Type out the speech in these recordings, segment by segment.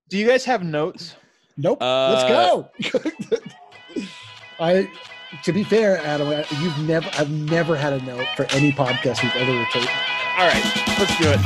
Do you guys have notes? Nope. Let's go. To be fair, Adam, I've never had a note for any podcast we've ever recorded. All right, let's do it.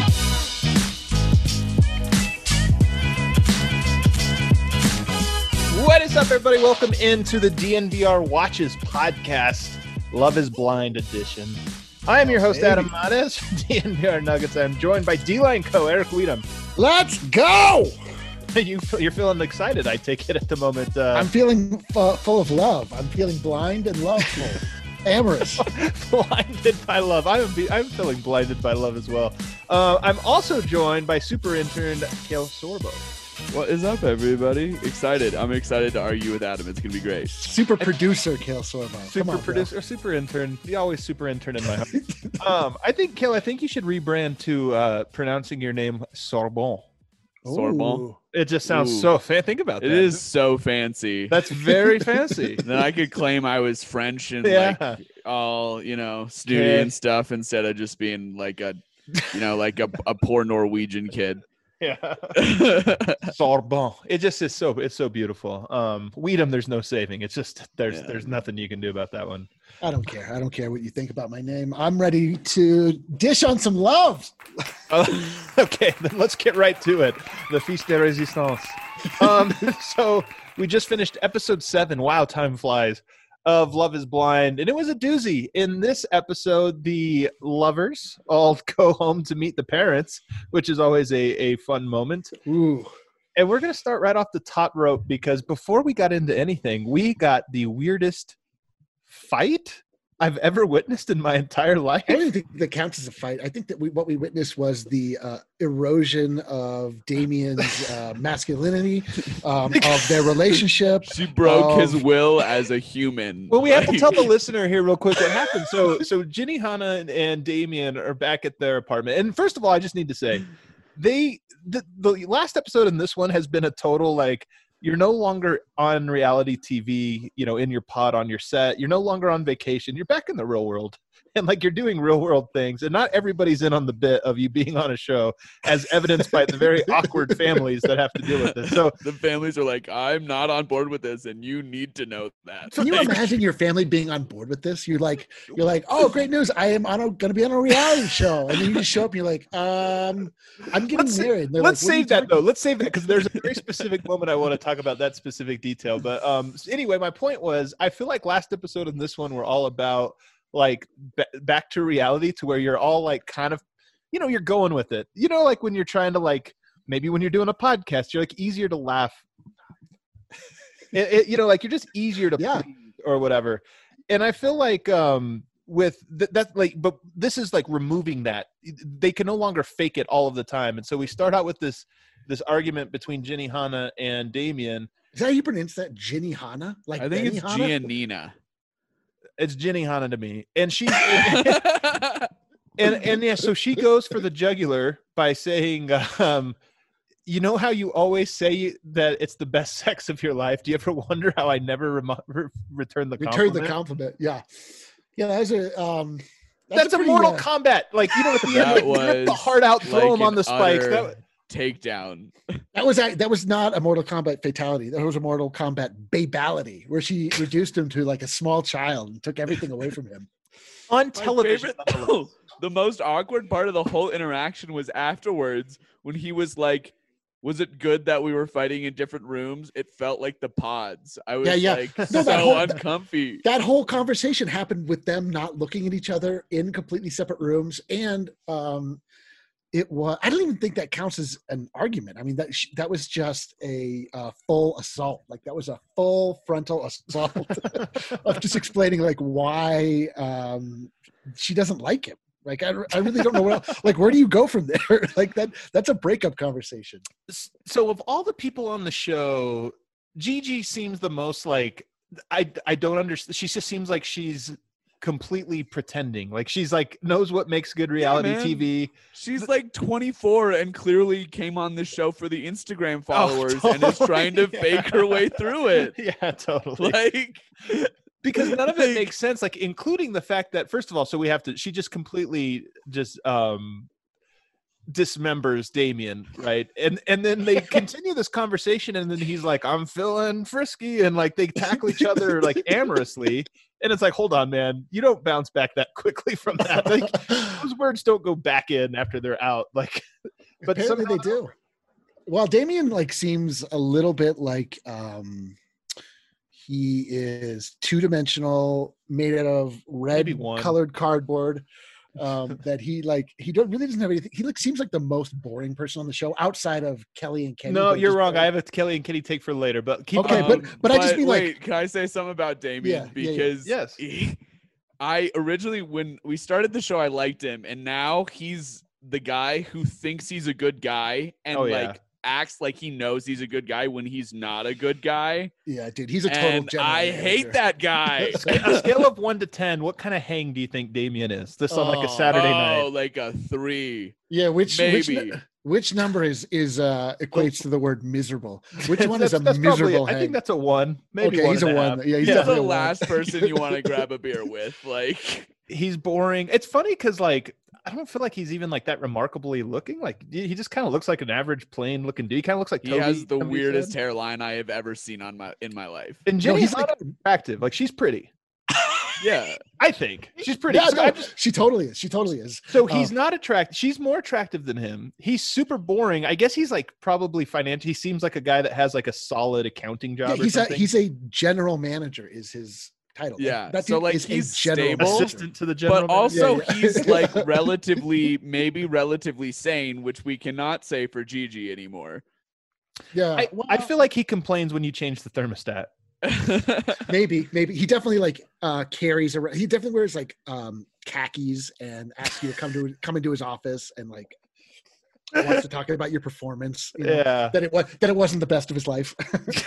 What is up, everybody? Welcome into the DNVR Watches podcast, Love is Blind edition. I am your host, Adam Mares from DNVR Nuggets. I'm joined by D-Line Co. Eric Weedham. Let's go! You're feeling excited, I take it, at the moment. I'm feeling full of love. I'm feeling blind and loveful. Amorous. Blinded by love. I'm feeling blinded by love as well. I'm also joined by super intern Kale Sorbo. What is up, everybody? Excited. I'm excited to argue with Adam. It's going to be great. Super producer Kale Sorbo. Super producer, super intern. You always super intern in my heart. I think, Kale, you should rebrand to pronouncing your name Sorbon. Sorbon. It just sounds so think about that. It is so fancy. That's very fancy. Then I could claim I was French and like all, snooty and stuff instead of just being like a poor Norwegian kid. Yeah. Sorbon. It just is it's so beautiful. Weedham, there's no saving. It's just there's nothing you can do about that one. I don't care. I don't care what you think about my name. I'm ready to dish on some love. Okay, then let's get right to it. The Feast de Resistance. So we just finished episode 7. Wow, time flies. Of Love is Blind, and it was a doozy. In this episode, the lovers all go home to meet the parents, which is always a fun moment. Ooh. And we're going to start right off the top rope because before we got into anything, we got the weirdest fight I've ever witnessed in my entire life. I don't even think that counts as a fight. I think that what we witnessed was the erosion of Damien's masculinity, of their relationship. She broke his will as a human. Well, we have to tell the listener here real quick what happened. So Ginny Hanna and Damien are back at their apartment. And first of all, I just need to say, the last episode in this one has been a total, like, you're no longer on reality TV, in your pod on your set. You're no longer on vacation. You're back in the real world. And like you're doing real world things. And not everybody's in on the bit of you being on a show, as evidenced by the very awkward families that have to deal with this. So the families are like, I'm not on board with this, and you need to know that. Can you imagine your family being on board with this? You're like, oh, great news. I am going to be on a reality show. And then you just show up and you're like, I'm getting married. Let's save that though. Let's save that because there's a very specific moment I want to talk about that specific detail. But anyway, my point was, I feel like last episode and this one were all about like back to reality, to where you're all like kind of, you're going with it. Like when you're trying to, like, maybe when you're doing a podcast, you're like easier to laugh. Like you're just easier to please or whatever. And I feel like with that, like, but this is like removing that. They can no longer fake it all of the time. And so we start out with this argument between Ginny Hanna and Damien. Is that how you pronounce that? Ginny Hanna? Like I think it's Giannina. It's Ginny Hanna to me. And she and yeah, so she goes for the jugular by saying, you know how you always say that it's the best sex of your life? Do you ever wonder how I never return the compliment? Return the compliment, yeah. Yeah, that's a Mortal Kombat. Like, at the end, like, rip the heart out, throw like him on the spikes. Takedown. That was not a Mortal Kombat fatality. That was a Mortal Kombat babality, where she reduced him to like a small child and took everything away from him. On television. The most awkward part of the whole interaction was afterwards when he was like, was it good that we were fighting in different rooms? It felt like the pods. I was uncomfy. That whole conversation happened with them not looking at each other in completely separate rooms. And it was, I don't even think that counts as an argument. I mean, that was just a full assault. Like that was a full frontal assault of just explaining like why she doesn't like him. Like, I really don't know what else. Like, where do you go from there? Like that's a breakup conversation. So of all the people on the show, Gigi seems the most like, I don't understand. She just seems like she's completely pretending, like she's like knows what makes good reality TV. She's like 24 and clearly came on this show for the Instagram followers totally. And is trying to fake her way through it. Yeah, totally. Like, because none of it makes sense, like including the fact that, first of all, so we have to, she just completely just dismembers Damien, right? And then they continue this conversation, and then he's like, I'm feeling frisky, and like they tackle each other like amorously. And it's like, hold on, man, you don't bounce back that quickly from that. Like those words don't go back in after they're out. Like, but apparently they do. Well, Damien like seems a little bit like he is two-dimensional, made out of red colored cardboard. That he really doesn't have anything. He seems like the most boring person on the show outside of Kelly and Kenny. No, you're wrong. I have a Kelly and Kenny take for later, but keep okay. But I just mean wait, can I say something about Damien? Because yes, I originally, when we started the show, I liked him, and now he's the guy who thinks he's a good guy and acts like he knows he's a good guy when he's not a good guy. Yeah, dude, he's a total general I manager. hate that guy. A scale of 1 to 10, what kind of hang do you think Damien is? This on like a Saturday night. Oh, like a 3. Yeah, which number equates to the word miserable? Which one is a miserable hang? I think that's a 1. Maybe okay, he's a 1. Yeah, he's definitely the last person you want to grab a beer with. Like, he's boring. It's funny because like I don't feel like he's even like that remarkably looking. Like he just kind of looks like an average plain looking dude. He kind of looks like Toby. He has the weirdest hairline I have ever seen in my life. And Jenny's like attractive. Like she's pretty. Yeah, I think she's pretty. Yeah, she totally is. She totally is. So he's not attractive. She's more attractive than him. He's super boring. I guess he's like probably financial. He seems like a guy that has like a solid accounting job. Yeah, he's a general manager. Is his title? Yeah, that so like he's stable, assistant to the general, but also yeah. he's like relatively sane, which we cannot say for Gigi anymore. Yeah, I feel like he complains when you change the thermostat. maybe he definitely like carries around. He definitely wears like khakis and asks you to come into his office and like wants to talk about your performance. You know, that it wasn't the best of his life.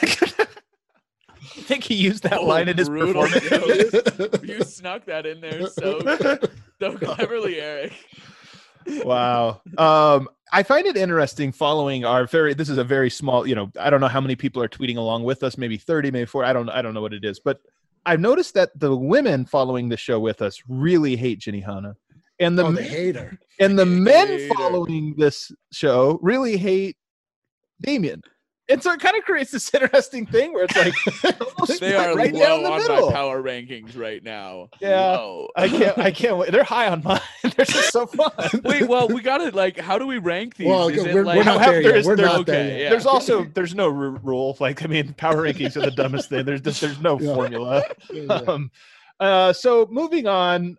I think he used that line in his performance. You snuck that in there so cleverly, Eric. Wow. I find it interesting following this is a very small, I don't know how many people are tweeting along with us, maybe 30, maybe 40. I don't know what it is, but I've noticed that the women following the show with us really hate Jenny Hanna. And they hate her. And the men following this show really hate Damien. And so it kind of creates this interesting thing where it's like they are right low down the on middle. my power rankings right now. Yeah, low. I can't wait. They're high on mine. They're just so fun. Wait, well, we got to how do we rank these? Well, we're not there yet. We're not there yet. There's no rule. Like, I mean, power rankings are the dumbest thing. There's no formula. So moving on.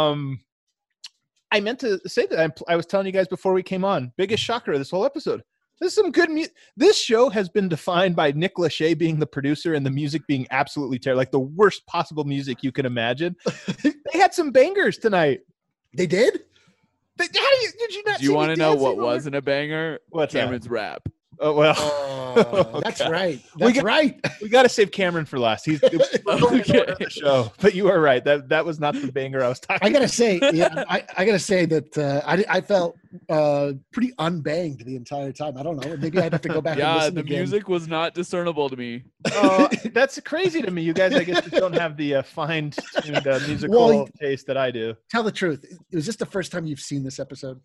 I meant to say that I was telling you guys before we came on. Biggest shocker of this whole episode. This is some good music. This show has been defined by Nick Lachey being the producer and the music being absolutely terrible, like the worst possible music you can imagine. They had some bangers tonight. They did? Did you not? Do you want to know what wasn't a banger? What's Cameron's rap. Oh well, that's right. That's right. We got to save Cameron for last. He's okay. The show, but you are right. That was not the banger I was talking. I gotta say, I gotta say that I felt pretty unbanged the entire time. I don't know. Maybe I'd have to go back. and listen the again. music was not discernible to me. That's crazy to me. You guys, I guess, just don't have the fine-tuned musical taste that I do. Tell the truth. Was this the first time you've seen this episode?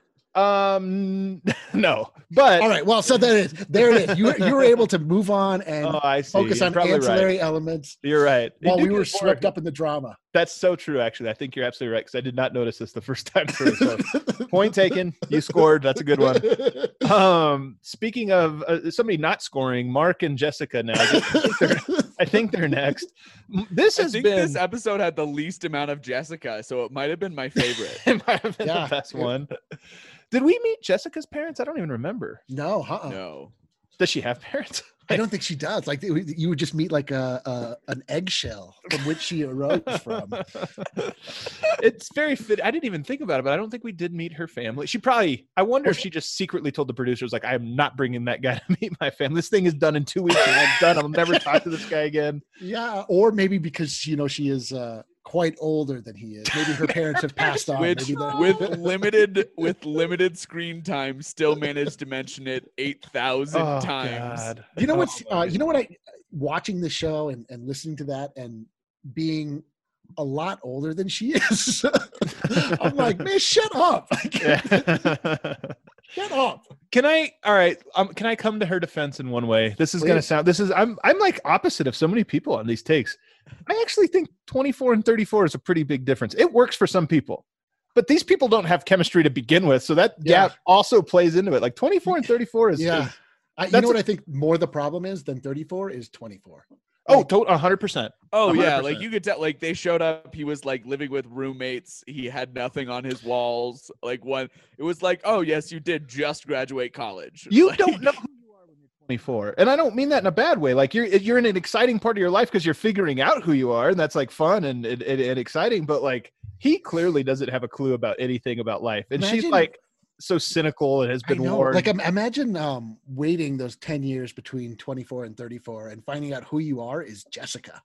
No, but all right. Well, so there it is. You were able to move on and focus on ancillary elements. You're right. While we were swept up in the drama. That's so true. Actually, I think you're absolutely right because I did not notice this the first time through. So, point taken. You scored. That's a good one. Speaking of somebody not scoring, Mark and Jessica now. I think they're next. This episode had the least amount of Jessica, so it might have been my favorite. It might have been the best one. Did we meet Jessica's parents? I don't even remember. No. No. Does she have parents? I don't think she does. Like you would just meet like an eggshell from which she arose from. It's very fit. I didn't even think about it, but I don't think we did meet her family. I wonder if she just secretly told the producers, like, I am not bringing that guy to meet my family. This thing is done in 2 weeks and I'm done. I'll never talk to this guy again. Yeah. Or maybe because, she is quite older than he is. Maybe her parents have passed on. Which, with limited screen time, still managed to mention it 8,000 times. God. You know what's? You know what? Watching the show and listening to that and being a lot older than she is, I'm like, man, shut up. Shut up. Can I come to her defense in one way? This is going to sound, I'm like opposite of so many people on these takes. I actually think 24 and 34 is a pretty big difference. It works for some people, but these people don't have chemistry to begin with. So that gap also plays into it. Like 24 and 34 is, you know what I think more the problem is than 34 is 24. Oh, 100%. Oh, 100%. Yeah. Like you could tell, like they showed up. He was like living with roommates. He had nothing on his walls. Like it was like, oh, yes, you did just graduate college. You don't know who you are when you're 24. And I don't mean that in a bad way. Like you're in an exciting part of your life because you're figuring out who you are. And that's like fun and exciting. But like he clearly doesn't have a clue about anything about life. And she's like so cynical and has been warned. Like imagine waiting those 10 years between 24 and 34 and finding out who you are is Jessica.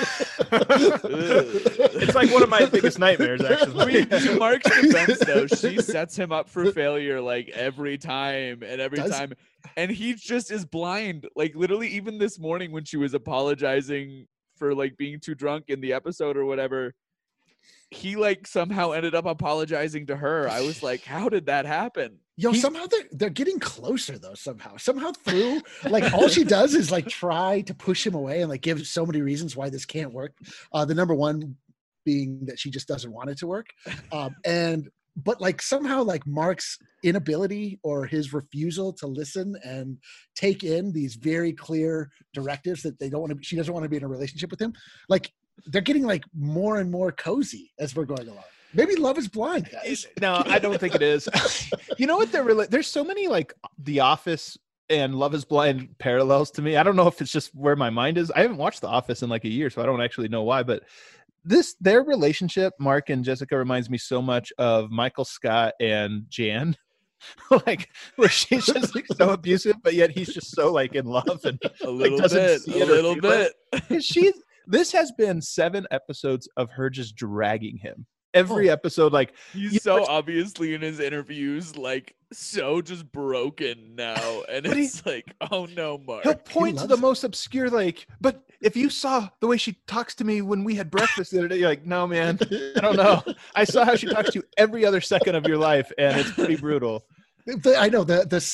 It's like one of my biggest nightmares, actually. To Mark's defense, though, she sets him up for failure like every time. And he just is blind. Like literally even this morning when she was apologizing for like being too drunk in the episode or whatever, he like somehow ended up apologizing to her. I was like, how did that happen? Somehow they're getting closer though. Somehow through like all she does is like try to push him away and like give so many reasons why this can't work. The number one being that she just doesn't want it to work. But like somehow like Mark's inability or his refusal to listen and take in these very clear directives that she doesn't want to be in a relationship with him. Like they're getting like more and more cozy as we're going along. Maybe Love is Blind, guys. No, I don't think it is. You know what? There's so many like The Office and Love is Blind parallels to me. I don't know if it's just where my mind is. I haven't watched The Office in like a year, so I don't actually know why. But their relationship, Mark and Jessica, reminds me so much of Michael Scott and Jan. Like where she's just like so abusive, but yet he's just so like in love and a little bit. This has been 7 episodes of her just dragging him. Every episode, like he's so obviously in his interviews, like so just broken now, and it's like, oh no, Mark. He'll point to the most obscure, like, but if you saw the way she talks to me when we had breakfast the other day, you're like, no, man, I don't know. I saw how she talks to you every other second of your life, and it's pretty brutal. I know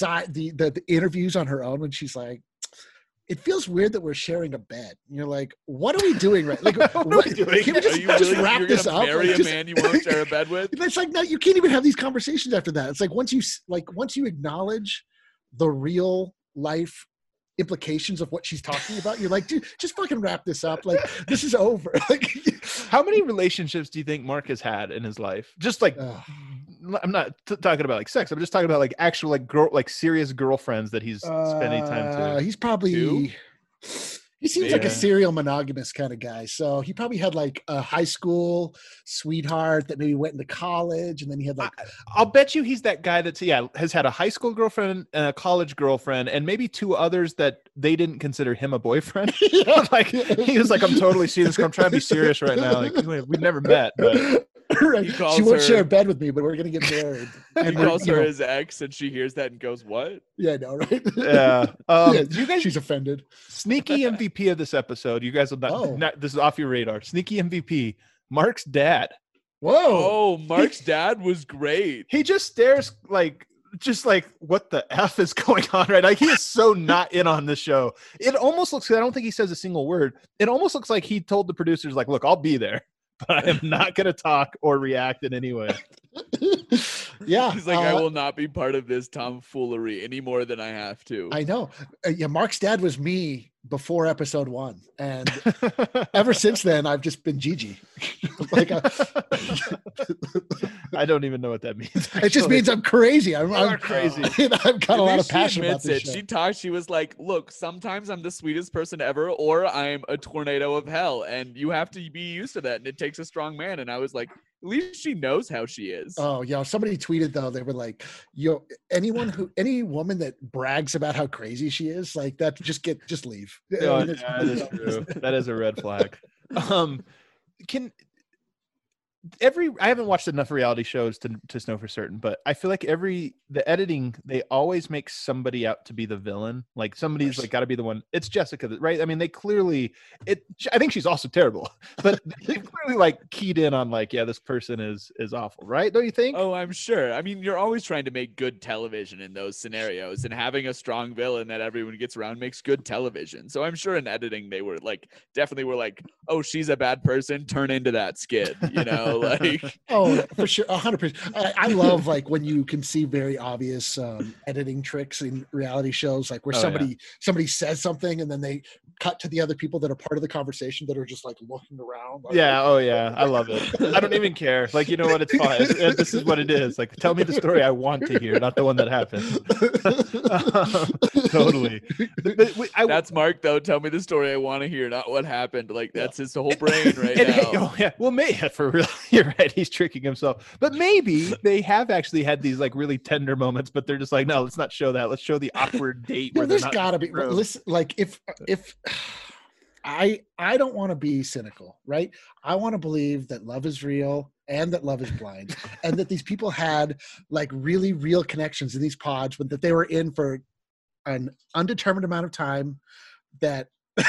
the interviews on her own when she's like, it feels weird that we're sharing a bed. And you're like, what are we doing? Right? Like, what are we doing? Can we just wrap this up? Marry a man you won't share a bed with? It's like, no, you can't even have these conversations after that. It's like once you acknowledge the real life implications of what she's talking about, you're like, dude, just fucking wrap this up. Like, this is over. Like, how many relationships do you think Mark has had in his life? Just like, I'm not talking about like sex. I'm just talking about like actual like serious girlfriends that he's spending time to. He's probably 2? He seems like a serial monogamous kind of guy. So he probably had like a high school sweetheart that maybe went into college, and then he had like. I'll bet you he's that guy that's has had a high school girlfriend and a college girlfriend, and maybe 2 others that they didn't consider him a boyfriend. Like he was like, I'm totally serious. I'm trying to be serious right now. Like we've never met, but. Right. She won't share a bed with me, but we're gonna get married. And he calls her his ex, and she hears that and goes, "What?" Yeah, I know, right? Yeah. You guys, she's offended. Sneaky MVP of this episode. You guys will not. This is off your radar. Sneaky MVP. Mark's dad. Whoa! Oh, Mark's dad was great. He just stares like. Just like, what the F is going on, right? Like, he is so not in on this show. It almost looks, I don't think he says a single word. It almost looks like he told the producers, like, look, I'll be there, but I am not going to talk or react in any way. Yeah. He's like, I will not be part of this tomfoolery any more than I have to. I know. Mark's dad was me before episode 1. And ever since then, I've just been Gigi. Like, I don't even know what that means. Actually. It just means I'm crazy. I'm crazy. I've got a lot of passion about this show. She talked. She was like, look, sometimes I'm the sweetest person ever, or I'm a tornado of hell. And you have to be used to that. And it takes a strong man. And I was like, at least she knows how she is. Oh, yeah. Somebody tweeted, though, they were like, any woman that brags about how crazy she is, like that, just leave. No, that is true. That is a red flag. I haven't watched enough reality shows to know for certain, but I feel like the editing, they always make somebody out to be the villain. Like somebody's like got to be the one. It's Jessica, right? I mean, they clearly I think she's also terrible, but they clearly like keyed in on like, yeah, this person is awful, right? Don't you think? Oh, I'm sure. I mean, you're always trying to make good television in those scenarios, and having a strong villain that everyone gets around makes good television. So I'm sure in editing they were like, definitely were like, oh, she's a bad person, turn into that skid, you know, like. Oh, for sure, 100%. I love like when you can see very obvious editing tricks in reality shows, like where somebody says something and then they cut to the other people that are part of the conversation that are just like looking around. Like, I love it. I don't even care. Like, you know what? It's fine. This is what it is. Like, tell me the story I want to hear, not the one that happened. Totally. That's Mark, though. Tell me the story I want to hear, not what happened. Like, that's his whole brain right now. Well, maybe for real, you're right. He's tricking himself. But maybe they have actually had these like really tender moments, but they're just like, no, let's not show that. Let's show the awkward date. No, there's got to be. Listen, like if I don't want to be cynical, right? I want to believe that love is real and that love is blind, and that these people had like really real connections in these pods, but that they were in for an undetermined amount of time. That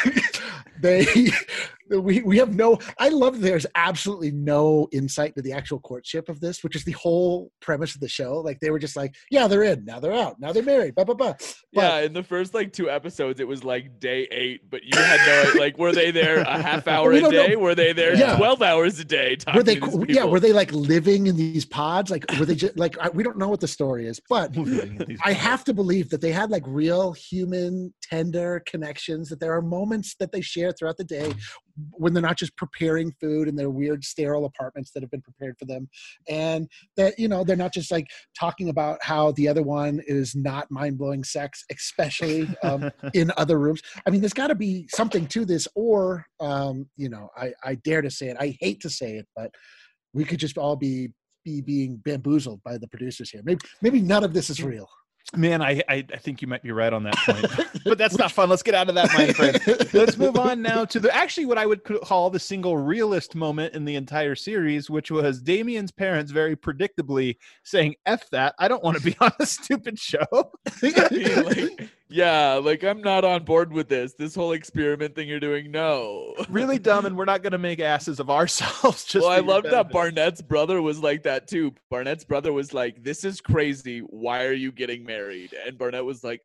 we have no. I love that there's absolutely no insight to the actual courtship of this, which is the whole premise of the show. Like they were just like, yeah, they're in, now they're out, now they're married, blah blah blah. Yeah, in the first like 2 episodes, it was like day 8, but you had no like, were they there a half hour a day? Were they there 12 hours a day? Were they? Were they like living in these pods? Like were they just like we don't know what the story is, but I have to believe that they had like real human tender connections. That there are moments that they share throughout the day when they're not just preparing food in their weird sterile apartments that have been prepared for them, and that they're not just like talking about how the other one is not mind-blowing sex, especially in other rooms. I mean, there's got to be something to this, or I dare to say it, I hate to say it, but we could just all be being bamboozled by the producers here. Maybe none of this is real. Man, I think you might be right on that point, but that's not fun. Let's get out of that mind frame. Let's move on now to what I would call the single realist moment in the entire series, which was Damien's parents very predictably saying, F that, I don't want to be on a stupid show. Like I'm not on board with this whole experiment thing you're doing. No. Really dumb, and we're not going to make asses of ourselves. I love that Barnett's brother was like that too. Barnett's brother was like, this is crazy. Why are you getting married? And Barnett was like,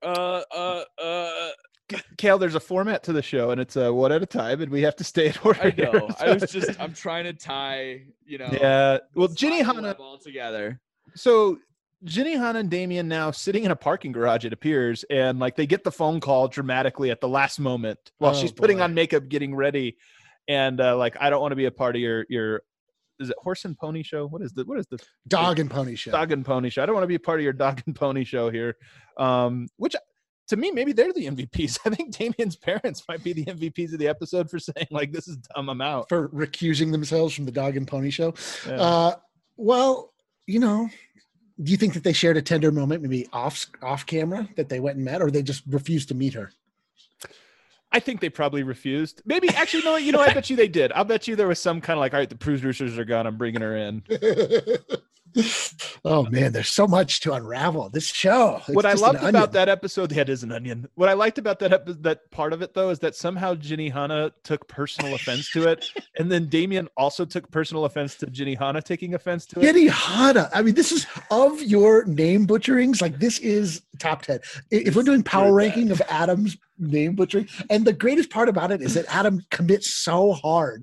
Kale, there's a format to the show, and it's one at a time, and we have to stay in order. I know. I'm trying to tie, Yeah. Well, Ginny Hanna all together. So Ginny Hanna and Damien now sitting in a parking garage, it appears, and like they get the phone call dramatically at the last moment while she's putting on makeup, getting ready, and like, I don't want to be a part of your is it horse and pony show? What is the dog and pony show? Dog and pony show. I don't want to be a part of your dog and pony show here. Which to me, maybe they're the MVPs. I think Damien's parents might be the MVPs of the episode for saying like, this is dumb, I'm out. For recusing themselves from the dog and pony show. Yeah. Well, do you think that they shared a tender moment, maybe off camera, that they went and met, or they just refused to meet her? I think they probably refused. Maybe actually, no, I bet you they did. I'll bet you there was some kind of like, all right, the producers are gone, I'm bringing her in. Oh man, there's so much to unravel this show. What I loved about that episode, that is an onion. What I liked about that part of it though, is that somehow Ginny Hanna took personal offense to it, and then Damien also took personal offense to Ginny Hanna taking offense to it. Ginny Hanna. I mean, this is of your name butcherings. Like this is top 10. If we're doing power ranking of Adam's name butchering, and the greatest part about it is that Adam commits so hard.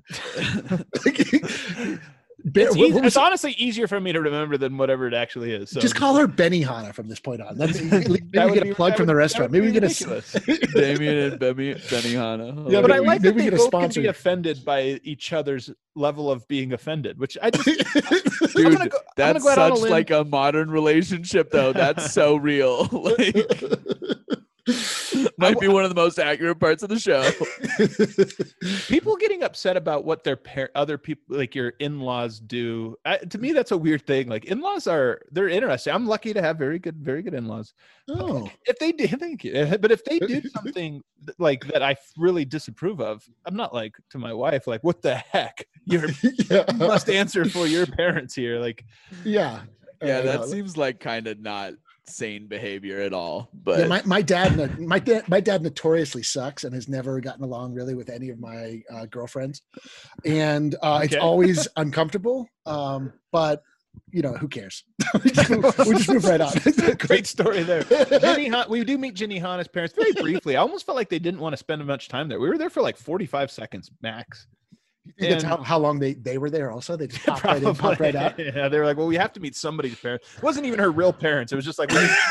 It's honestly easier for me to remember than whatever it actually is. So. Just call her Benny Hanna from this point on. Maybe we get a plug from the restaurant. Maybe we get a Damien and Benny Hanna. Yeah, but I like that they both can be offended by each other's level of being offended, which I just dude, that's such like a modern relationship though. That's so real. Like Might be one of the most accurate parts of the show. People getting upset about what their other people, like your in-laws, do. To me, that's a weird thing. Like in-laws they're interesting. I'm lucky to have very good in-laws. Oh, if they do, thank you. But if they do something like that I really disapprove of, I'm not like to my wife, like, what the heck? You must answer for your parents here. Like, yeah, that seems like kind of not sane behavior at all. But yeah, my dad notoriously sucks and has never gotten along really with any of my girlfriends, and it's always uncomfortable. But who cares? we just move right on. Great story there. We do meet Ginny Hanna's parents very briefly. I almost felt like they didn't want to spend much time there. We were there for like 45 seconds max. You think that's how long they were there also? They just popped right in, popped right out? Yeah, they were like, well, we have to meet somebody's parents. It wasn't even her real parents. It was just like,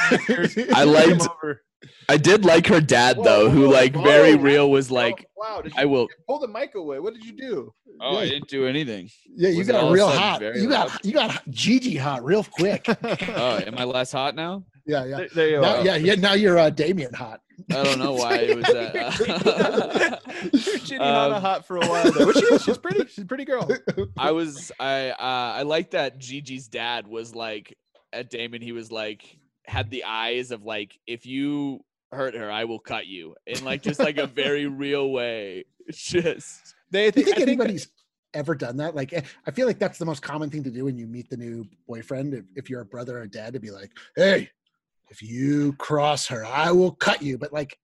I did like her dad, though, who very real was like, wow, I will pull the mic away. What did you do? Oh, I didn't do anything. Yeah, you got real hot. You got Gigi hot real quick. Oh, am I less hot now? Yeah. There you are. Yeah. Now you're Damien hot. I don't know why it was that. Ginny Hanna hot for a while there. But she's pretty. She's a pretty girl. I like that Gigi's dad was like at Damon. He was like had the eyes of like, if you hurt her, I will cut you in like just like a very real way. It's just do you think anybody's ever done that? Like, I feel like that's the most common thing to do when you meet the new boyfriend. If you're a brother or dad, to be like, hey, if you cross her, I will cut you. But like,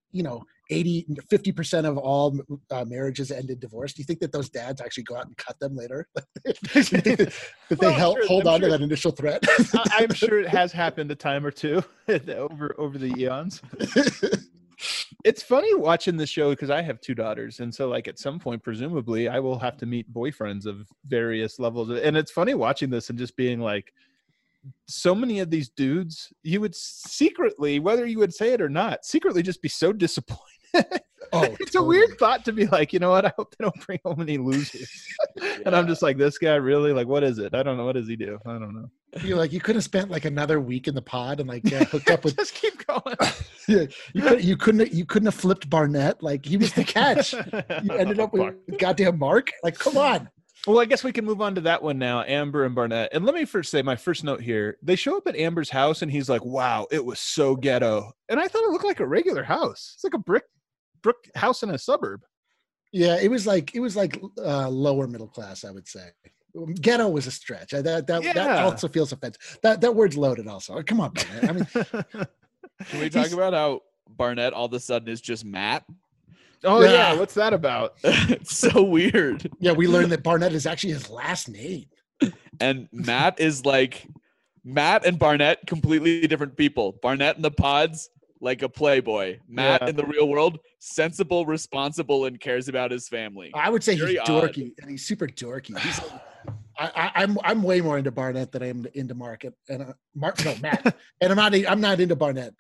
50% of all marriages end in divorce. Do you think that those dads actually go out and cut them later? That they hold on to that initial threat? I'm sure it has happened a time or two over the eons. It's funny watching the show because I have two daughters, and so like at some point, presumably, I will have to meet boyfriends of various levels. And it's funny watching this and just being like, so many of these dudes, you would secretly, whether you would say it or not, secretly just be so disappointed. It's a weird thought to be like, you know what? I hope they don't bring home any losers. And I'm just like, this guy really, like, what is it? I don't know. What does he do? I don't know. You're like, you could have spent like another week in the pod and like hooked up with. Just keep going. Yeah, you couldn't have flipped Barnett. Like he was the catch. You ended up with goddamn Mark. Like, come on. Well, I guess we can move on to that one now, Amber and Barnett. And let me first say my first note here. They show up at Amber's house and he's like, wow, it was so ghetto. And I thought it looked like a regular house. It's like a brick house in a suburb. Yeah, it was like lower middle class, I would say. Ghetto was a stretch. That also feels offensive. That word's loaded also. Come on, Barnett. I mean, can we talk about how Barnett all of a sudden is just Matt? Oh yeah, what's that about? It's so weird. Yeah, we learned that Barnett is actually his last name. And Matt is like Matt and Barnett, completely different people. Barnett in the pods, like a playboy. Matt in the real world, sensible, responsible, and cares about his family. I would say he's dorky, and he's super dorky. He's I'm way more into Barnett than I am into Mark and Matt. And I'm not into Barnett.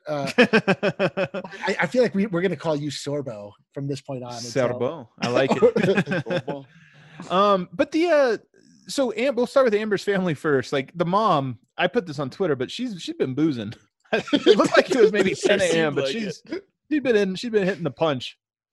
I feel like we're going to call you Sorbo from this point on. Sorbo, I like it. But so we'll start with Amber's family first. Like the mom, I put this on Twitter, but she's been boozing. It looked like it was maybe 10 a.m., but she's been hitting the punch.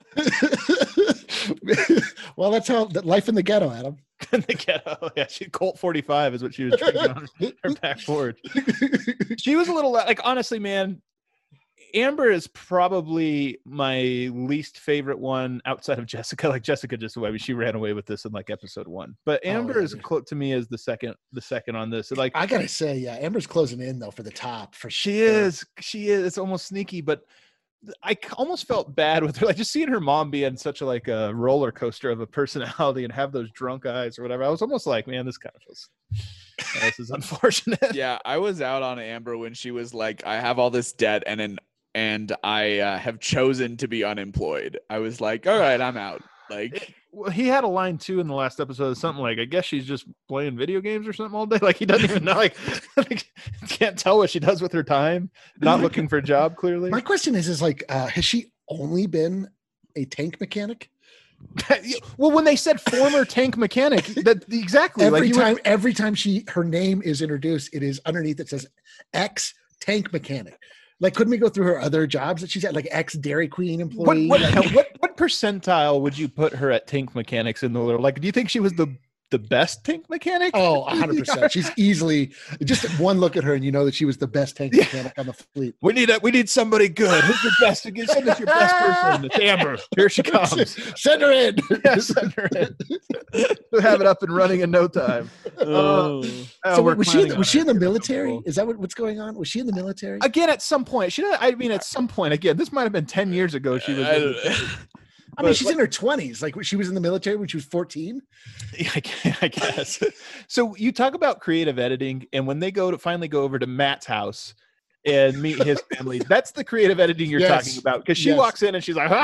Well, that's how life in the ghetto, Adam. In the ghetto, yeah. Colt 45 is what she was drinking on her backboard. She was a little like, honestly, man. Amber is probably my least favorite one outside of Jessica. Like Jessica, just away. She ran away with this in like episode 1. But Amber is to me as the second on this. Like I gotta say, yeah, Amber's closing in though for the top for sure. She is. It's almost sneaky, but I almost felt bad with her, like just seeing her mom be in such a roller coaster of a personality and have those drunk eyes or whatever. I was almost like, man, this kind of feels. This is unfortunate. Yeah, I was out on Amber when she was like, I have all this debt and I have chosen to be unemployed. I was like, all right, I'm out. Like, well, he had a line too in the last episode, something like, I guess she's just playing video games or something all day. Like he doesn't even know, like can't tell what she does with her time. Not looking for a job, clearly. My question is like, has she only been a tank mechanic? Well, when they said former tank mechanic, that exactly every time her name is introduced, it is underneath. It says ex tank mechanic. Like, couldn't we go through her other jobs that she's at, like ex Dairy Queen employee? What percentile would you put her at tank mechanics in the world? Like, do you think she was the best tank mechanic? Oh, 100%. She's easily just one look at her and you know that she was the best tank mechanic on the fleet. We need somebody good. Who's the best? Send us your best person. It's Amber. Here she comes. Send her in. Yeah, send her in. We'll have it up and running in no time. So was she in the military? Is that what's going on? Was she in the military? Again, at some point. At some point, again, this might have been 10 years ago she was I mean, she's in her 20s. Like, she was in the military when she was 14. I guess. So you talk about creative editing, and when they finally go over to Matt's house and meet his family, that's the creative editing you're talking about. Because she walks in and she's like,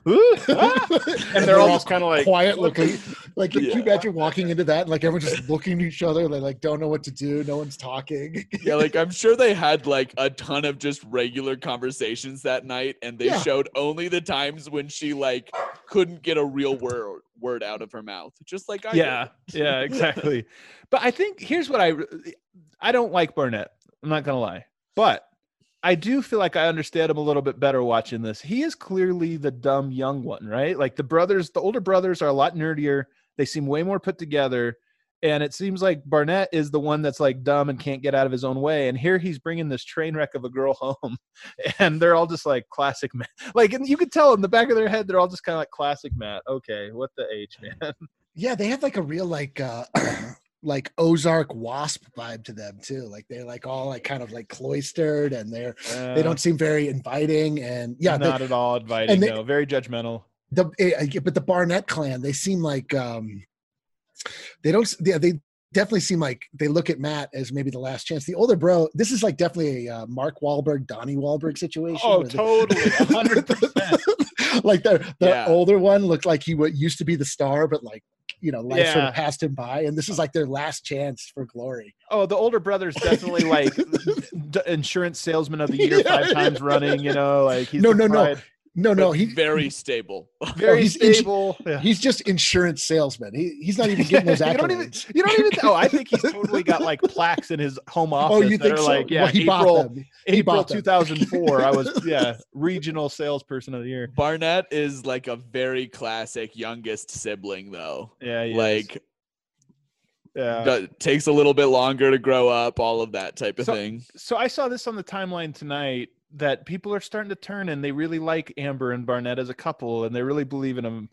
and they're all just kind of like quiet looking. Like, can you imagine walking into that and like everyone's just looking at each other? They like don't know what to do. No one's talking. Yeah, like I'm sure they had like a ton of just regular conversations that night, and they showed only the times when she like couldn't get a real word out of her mouth, just like I did. Yeah, exactly. But I think here's what I don't like Barnett. I'm not gonna lie, but I do feel like I understand him a little bit better watching this. He is clearly the dumb young one, right? Like the older brothers are a lot nerdier. They seem way more put together. And it seems like Barnett is the one that's like dumb and can't get out of his own way. And here he's bringing this train wreck of a girl home. And they're all just like classic Matt. Like, and you could tell in the back of their head, they're all just kind of like classic Matt. Okay, what the H, man? Yeah, they have like a real like like Ozark Wasp vibe to them too. Like they're like all like kind of like cloistered, and they don't seem very inviting, and not at all inviting. No, very judgmental. But the Barnett clan, they seem like they definitely seem like they look at Matt as maybe the last chance. The older bro, this is like definitely a Mark Wahlberg, Donnie Wahlberg situation. Oh, totally, 100%. Like the older one looked like he used to be the star, but like, you know, life sort of passed him by, and this is like their last chance for glory. Oh, the older brother's definitely like insurance salesman of the year 5 times running. You know, like he's No, he's very stable. Very stable. He's just insurance salesman. He's not even getting those accolades. You don't even. Oh, I think he's totally got like plaques in his home office. Oh, you think so? Like, yeah, well, April 2004. I was regional salesperson of the year. Barnett is like a very classic youngest sibling, though. Yeah, takes a little bit longer to grow up. All of that type of thing. So I saw this on the timeline tonight, that people are starting to turn and they really like Amber and Barnett as a couple, and they really believe in them.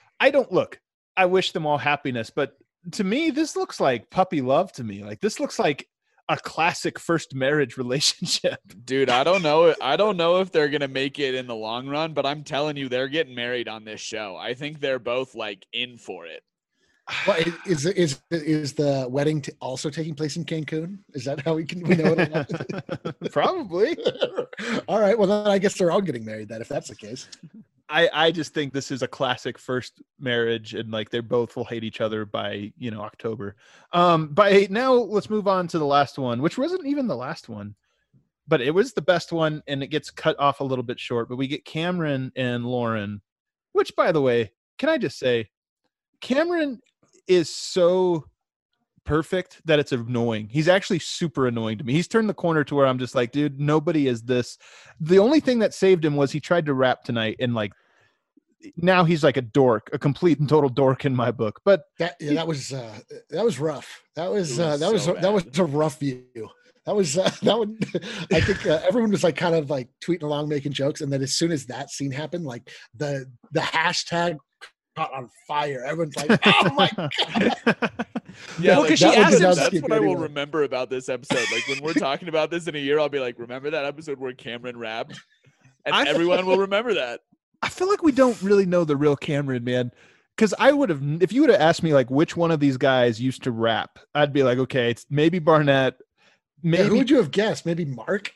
I wish them all happiness, but to me, this looks like puppy love to me. Like, this looks like a classic first marriage relationship. Dude, I don't know if they're going to make it in the long run, but I'm telling you, they're getting married on this show. I think they're both like in for it. Well, is the wedding also taking place in Cancun? Is that how we know it? Probably. All right. Well, then I guess they're all getting married then, if that's the case. I just think this is a classic first marriage, and like they both will hate each other by October. Now let's move on to the last one, which wasn't even the last one, but it was the best one, and it gets cut off a little bit short. But we get Cameron and Lauren, which, by the way, can I just say, Cameron is so perfect that it's annoying. He's actually super annoying to me. He's turned the corner to where I'm just like, dude, nobody is this. The only thing that saved him was he tried to rap tonight, and like now he's like a dork, a complete and total dork in my book. But that was rough. That was a rough view. That one. I think everyone was like kind of like tweeting along, making jokes, and then as soon as that scene happened, like the hashtag caught on fire. Everyone's like, "Oh my god!" Yeah, because she asked him. That's what I will remember about this episode. Like when we're talking about this in a year, I'll be like, "Remember that episode where Cameron rapped?" And everyone will remember that. I feel like we don't really know the real Cameron, man. Because I would have, if you would have asked me like which one of these guys used to rap, I'd be like, okay, it's maybe Barnett. Maybe who would you have guessed? Maybe Mark.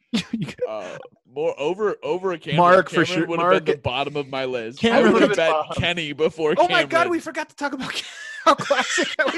More over a Cameron. Mark Cameron for sure. Would have been the bottom of my list. Cameron would have bet Kenny before. Oh my god, we forgot to talk about. how classic that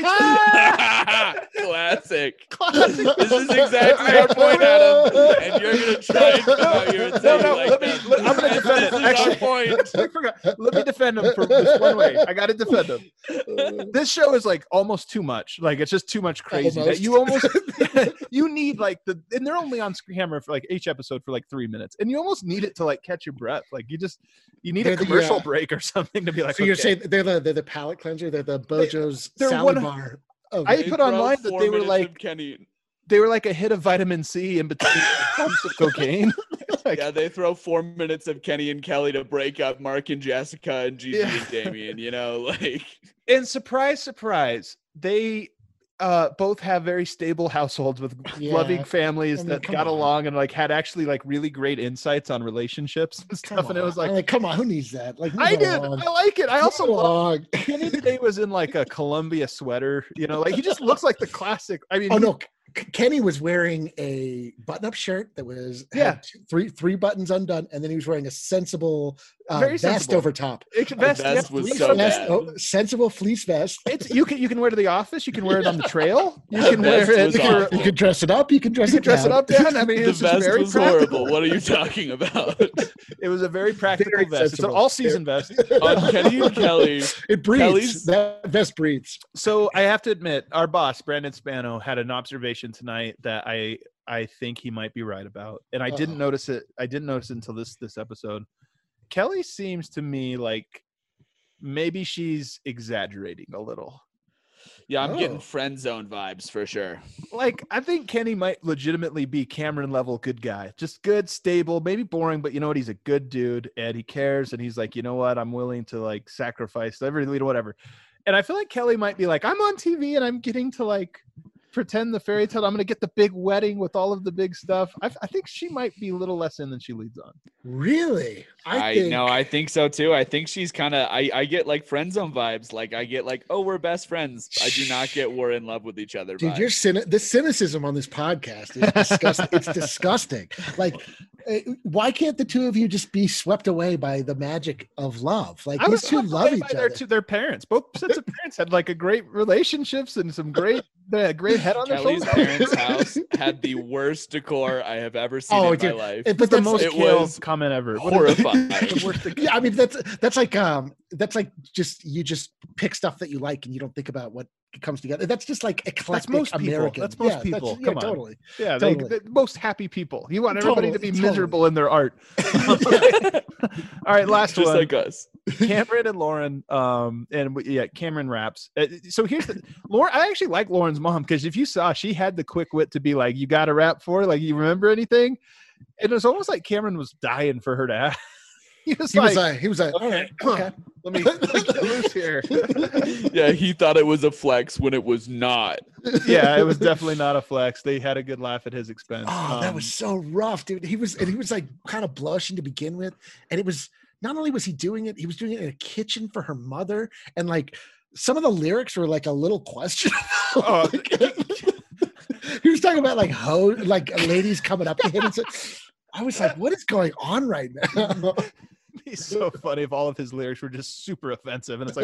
was. Classic. This is exactly our point, Adam. And you're going to try and come out here and say I'm going to defend it. Actually, point. I forgot. Let me defend him for this one way. I got to defend him. This show is like almost too much. Like it's just too much crazy that you almost you need like and they're only on camera for like each episode for like 3 minutes, and you almost need it to like catch your breath. Like you need a commercial break or something to be like. So you're saying they're the palate cleanser, they're the Bojo's salad bar. I put online that they were like Kenny. They were like a hit of vitamin C in between pumps of cocaine. Yeah, they throw 4 minutes of Kenny and Kelly to break up Mark and Jessica and Gigi and Damien, you know, like. And surprise, surprise, they both have very stable households with loving families that got along and like had actually like really great insights on relationships and stuff. And it was like, come on, who needs that? Like, I did. I like it. I also love Kenny today was in like a Columbia sweater, you know, like he just looks like the classic. I mean, no. Kenny was wearing a button-up shirt that was had three buttons undone, and then he was wearing a sensible vest over top. Vest was so bad. Sensible fleece vest. It's you can wear to the office. You can wear it on the trail. You can wear it. You can dress it up. You can dress it down. I mean, the vest very was horrible. What are you talking about? It was a very practical vest. It's an all-season vest. On Kenny and Kelly, it breathes. That vest breathes. So I have to admit, our boss Brandon Spano had an observation tonight that I think he might be right about, and I didn't notice it. I didn't notice it until this episode. Kelly seems to me like maybe she's exaggerating a little. Yeah, I'm getting friend zone vibes for sure. Like, I think Kenny might legitimately be Cameron level good guy. Just good, stable, maybe boring, but you know what? He's a good dude and he cares. And he's like, you know what? I'm willing to like sacrifice everything, whatever. And I feel like Kelly might be like, I'm on TV and I'm getting to like pretend the fairy tale. I'm going to get the big wedding with all of the big stuff. I think she might be a little less in than she leads on. Really? I think so too. I think she's kind of, I get like friend zone vibes. Like I get like, oh, we're best friends. I do not get we're in love with each other. Dude, the cynicism on this podcast is disgusting. It's disgusting. Like, why can't the two of you just be swept away by the magic of love? Like, these two love each other. Their parents, both sets of parents had like a great relationships and some great head on Kelly's their parents' house had the worst decor I have ever seen in my life. But the most killed comment ever. Horrifying. Yeah, I mean that's like you just pick stuff that you like and you don't think about what comes together. That's just like eclectic American. That's most people. Come on. Totally. Yeah, they're most happy people. You want everybody to be miserable in their art. All right, last just one. Like us. Cameron and Lauren, Cameron raps. So here's Lauren. I actually like Lauren's mom because if you saw, she had the quick wit to be like, "You got a rap for?" Like, you remember anything? It was almost like Cameron was dying for her to ask. He was like, okay. Let me get loose here. Yeah, he thought it was a flex when it was not. Yeah, it was definitely not a flex. They had a good laugh at his expense. Oh, that was so rough, dude. He was like kind of blushing to begin with, and it was not only was he doing it, he was doing it in a kitchen for her mother, and like some of the lyrics were like a little questionable. Oh. He was talking about like ladies coming up to him and I was like, what is going on right now? He's so funny if all of his lyrics were just super offensive, and it's like,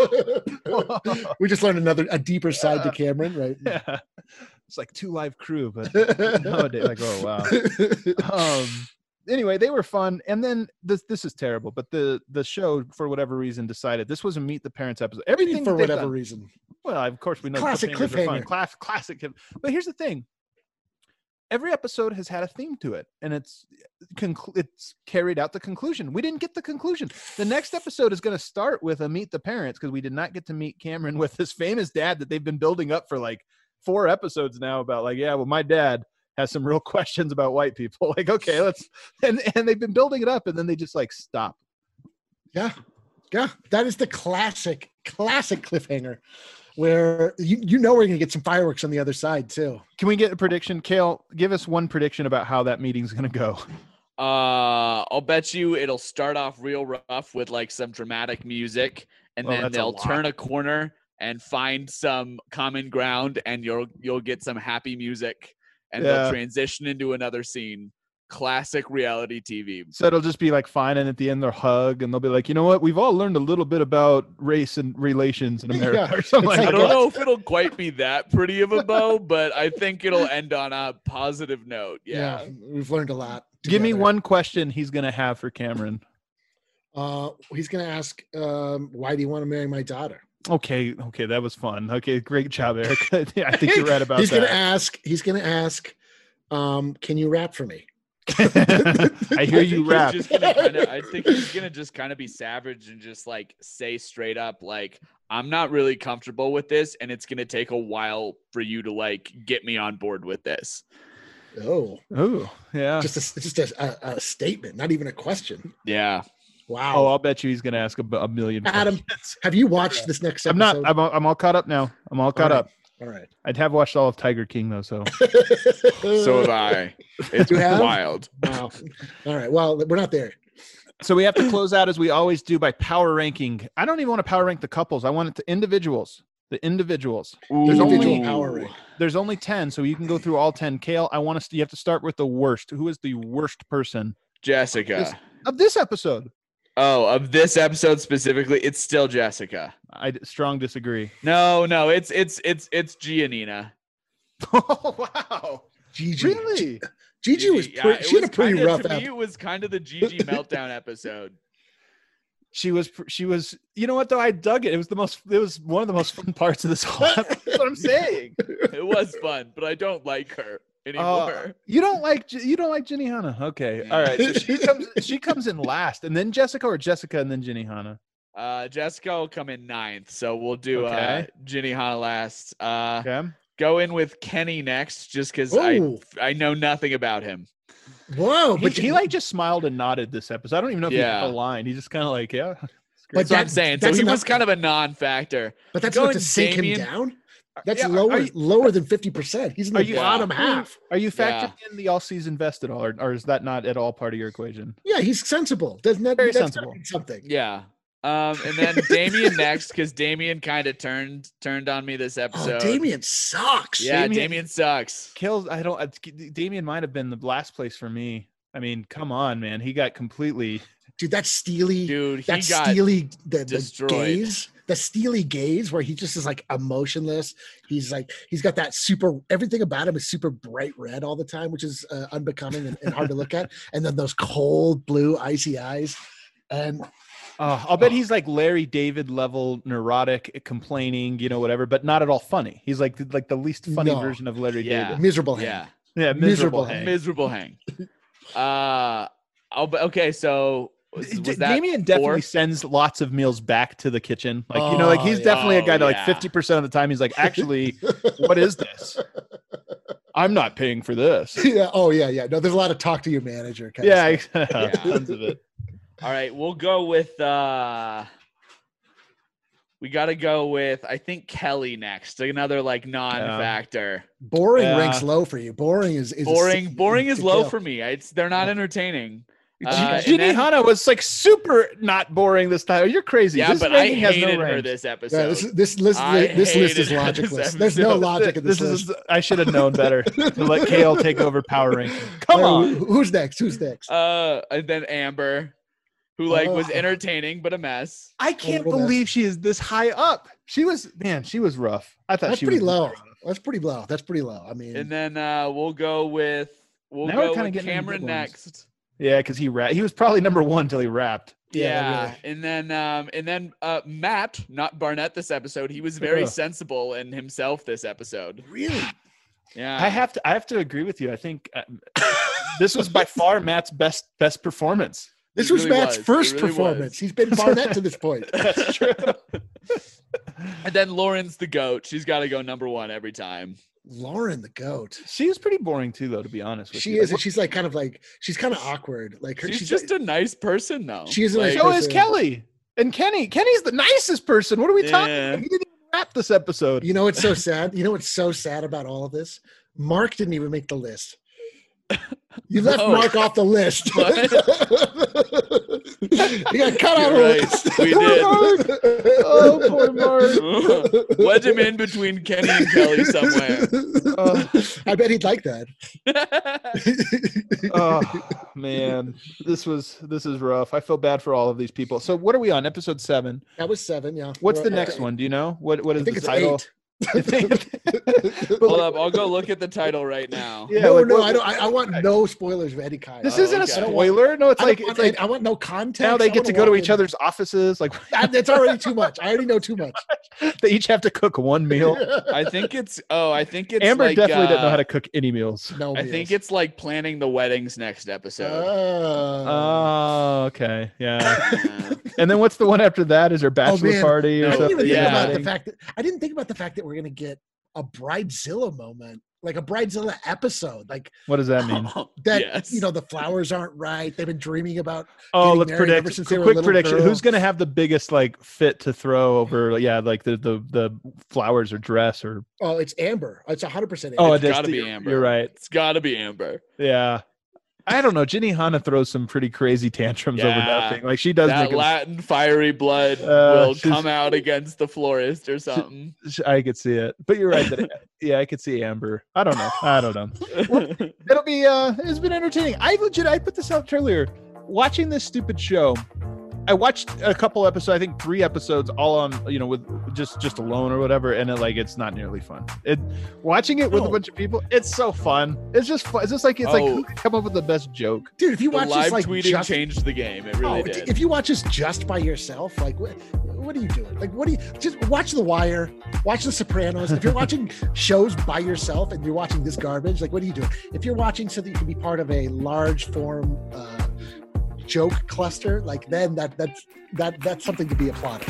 whoa. We just learned a deeper side to Cameron, right? Yeah, it's like 2 Live Crew, but nowadays, like, oh wow. Anyway, they were fun, and then this is terrible, but the show for whatever reason decided this was a Meet the Parents episode. Everything for whatever reason. Well, of course we know classic cliffhanger. Classic. But here's the thing. Every episode has had a theme to it, and it's carried out the conclusion. We didn't get the conclusion. The next episode is going to start with a Meet the Parents because we did not get to meet Cameron with his famous dad that they've been building up for like 4 episodes now about like, yeah, well, my dad has some real questions about white people. Like, okay, and they've been building it up, and then they just like stop. Yeah. That is the classic cliffhanger. Where you know we're going to get some fireworks on the other side, too. Can we get a prediction? Kale, give us one prediction about how that meeting's going to go. I'll bet you it'll start off real rough with like some dramatic music, and then they'll turn a corner and find some common ground, and you'll get some happy music, and they'll transition into another scene. classic reality TV. So it'll just be like fine, and at the end they'll hug, and they'll be like, you know what? We've all learned a little bit about race and relations in America, or something like I that. don't know if it'll quite be that pretty of a bow, but I think it'll end on a positive note. Yeah, we've learned a lot. Give me one question he's gonna have for Cameron. He's gonna ask, why do you want to marry my daughter? Okay, that was fun. Okay, great job, Eric. Yeah, I think you're right about He's that. He's gonna ask, can you rap for me? I hear you rap. I think he's gonna just kind of be savage and just like say straight up, like, I'm not really comfortable with this, and it's gonna take a while for you to like get me on board with this. Oh, yeah. Just a statement, not even a question. Yeah. Wow. Oh, I'll bet you he's gonna ask a million. Adam, have you watched this next episode? I'm all caught up now. I'm all caught up. All right. I'd have watched all of Tiger King though, so. So have I. It's wild. Wow. All right. Well, we're not there. So we have to close out as we always do by power ranking. I don't even want to power rank the couples. I want it to individuals. The individuals. There's only 10, so you can go through all 10. Kale, you have to start with the worst. Who is the worst person? Jessica. Of this episode. Oh, of this episode specifically, it's still Jessica. I strong disagree. No, it's Giannina. Oh wow, Gigi. Really? Gigi was she had a pretty rough. To me, it was kind of the Gigi meltdown episode. She was. You know what though? I dug it. It was one of the most fun parts of this whole episode. That's what I'm saying. It was fun, but I don't like her anymore. You don't like Ginny Hanna. Okay. Yeah. All right. So she comes in last, and then Jessica and then Ginny Hanna. Jessica will come in 9th, so we'll do Ginny Hanna last. Okay. Go in with Kenny next, just because I know nothing about him. Whoa! But he like just smiled and nodded this episode. I don't even know if he had a line. He just kind of like, yeah. But that's what I'm saying. So he was kind of a non-factor. But that's enough to sink him down. That's lower than 50%. He's in the bottom half. Are you factoring in the all season vest at all, or is that not at all part of your equation? Yeah, he's sensible. Doesn't that very sensible? Something. Yeah. And then Damien next, because Damien kind of turned on me this episode. Oh, Damien sucks. Yeah, Damien sucks. Damien might have been the last place for me. I mean, come on, man. He got completely. Dude, that's Steely. Dude, the gaze. The Steely gaze where he just is like emotionless. He's got that everything about him is super bright red all the time, which is unbecoming and hard to look at. And then those cold blue icy eyes. And I'll bet he's like Larry David level neurotic, complaining, whatever, but not at all funny. He's like the least funny version of Larry David. Miserable hang. Yeah, miserable hang. Miserable hang. Okay, so Damien definitely sends lots of meals back to the kitchen. He's definitely a guy that 50% of the time he's like, actually, what is this? I'm not paying for this. Yeah. Oh yeah. No, there's a lot of talk to your manager. Tons of it. All right, we'll go with we got to go with I think Kelly next. Another like non-factor. Boring ranks low for you. Boring is boring is low for me. They're not entertaining. Ginny Hanna was like super not boring this time. You're crazy. Yeah, but I hated her this episode. Yeah, this list is logicless. There's no logic in this list. I should have known better to let Kale take over power ranking. Come on. Who's next? And then Amber, who was entertaining but a mess. I can't believe she is this high up. She was rough. I thought That's pretty low. That's pretty low. I mean, and then we'll go with Cameron next. Yeah, because he was probably number 1 till he rapped. Yeah, really. And then Matt, not Barnett, this episode. He was very sensible in himself this episode. Really? Yeah. I have to agree with you. I think this was by far Matt's best performance. This was Matt's first performance. He's been Barnett to this point. That's true. And then Lauren's the GOAT. She's got to go number 1 every time. Lauren the GOAT. She was pretty boring too, though, to be honest with you. She is, and she's kind of awkward. She's just a nice person, though. She is a nice so person. Is Kelly and Kenny. Kenny's the nicest person. What are we talking about? He didn't even rap this episode. You know what's so sad? You know what's so sad about all of this? Mark didn't even make the list. You left Mark off the list. He got cut out. Right. We did. Oh, poor Mark. Wedge him in between Kenny and Kelly somewhere. I bet he'd like that. Oh man, this is rough. I feel bad for all of these people. So what are we on? Episode 7. That was 7. Yeah. What's the next one? Do you know? What is the title? 8. Hold up, I'll go look at the title right now. Yeah, no, I don't. I want no spoilers of Eddie Kyle. This isn't a spoiler. No, it's like I want no context. Now they get to go to each other's offices. Like that's already too much. I already know too much. They each have to cook one meal. I think it's Amber like, definitely doesn't know how to cook any meals. No, I think it's like planning the weddings next episode. Oh, okay, yeah. And then what's the one after that? Is there bachelor party or something? I didn't think about the fact that we're gonna get a Bridezilla moment, like a Bridezilla episode. Like, what does that mean? That the flowers aren't right. They've been dreaming about. Let's predict. Quick prediction: who's gonna have the biggest like fit to throw over? Yeah, like the flowers or dress or. Oh, it's Amber. It's 100%. Oh, it's gotta be Amber. You're right. It's gotta be Amber. Yeah. I don't know. Jenny Hanna throws some pretty crazy tantrums over nothing. Like she does. That Latin fiery blood will come out against the florist or something. I could see it, but you're right. I could see Amber. I don't know. Well, it'll be. It's been entertaining. I put this out earlier. Watching this stupid show, I watched a couple episodes. I think 3 episodes, all on with just alone or whatever, and it's not nearly fun. Watching it with a bunch of people, it's so fun. It's just fun. It's just like who can come up with the best joke, dude? If you watch live this, like tweeting changed the game. It really did. If you watch this just by yourself, like what are you doing? Like just watch The Wire, watch The Sopranos. If you're watching shows by yourself and you're watching this garbage, like what are you doing? If you're watching so that you can be part of a large form joke cluster, like then that's something to be applauded.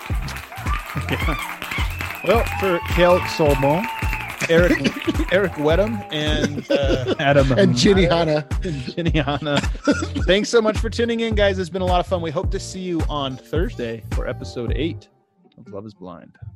Yeah. Well, for Kel Solomon, Eric Wedham, and Adam and Jenny Hanna. Thanks so much for tuning in, guys. It's been a lot of fun. We hope to see you on Thursday for episode 8 of Love Is Blind.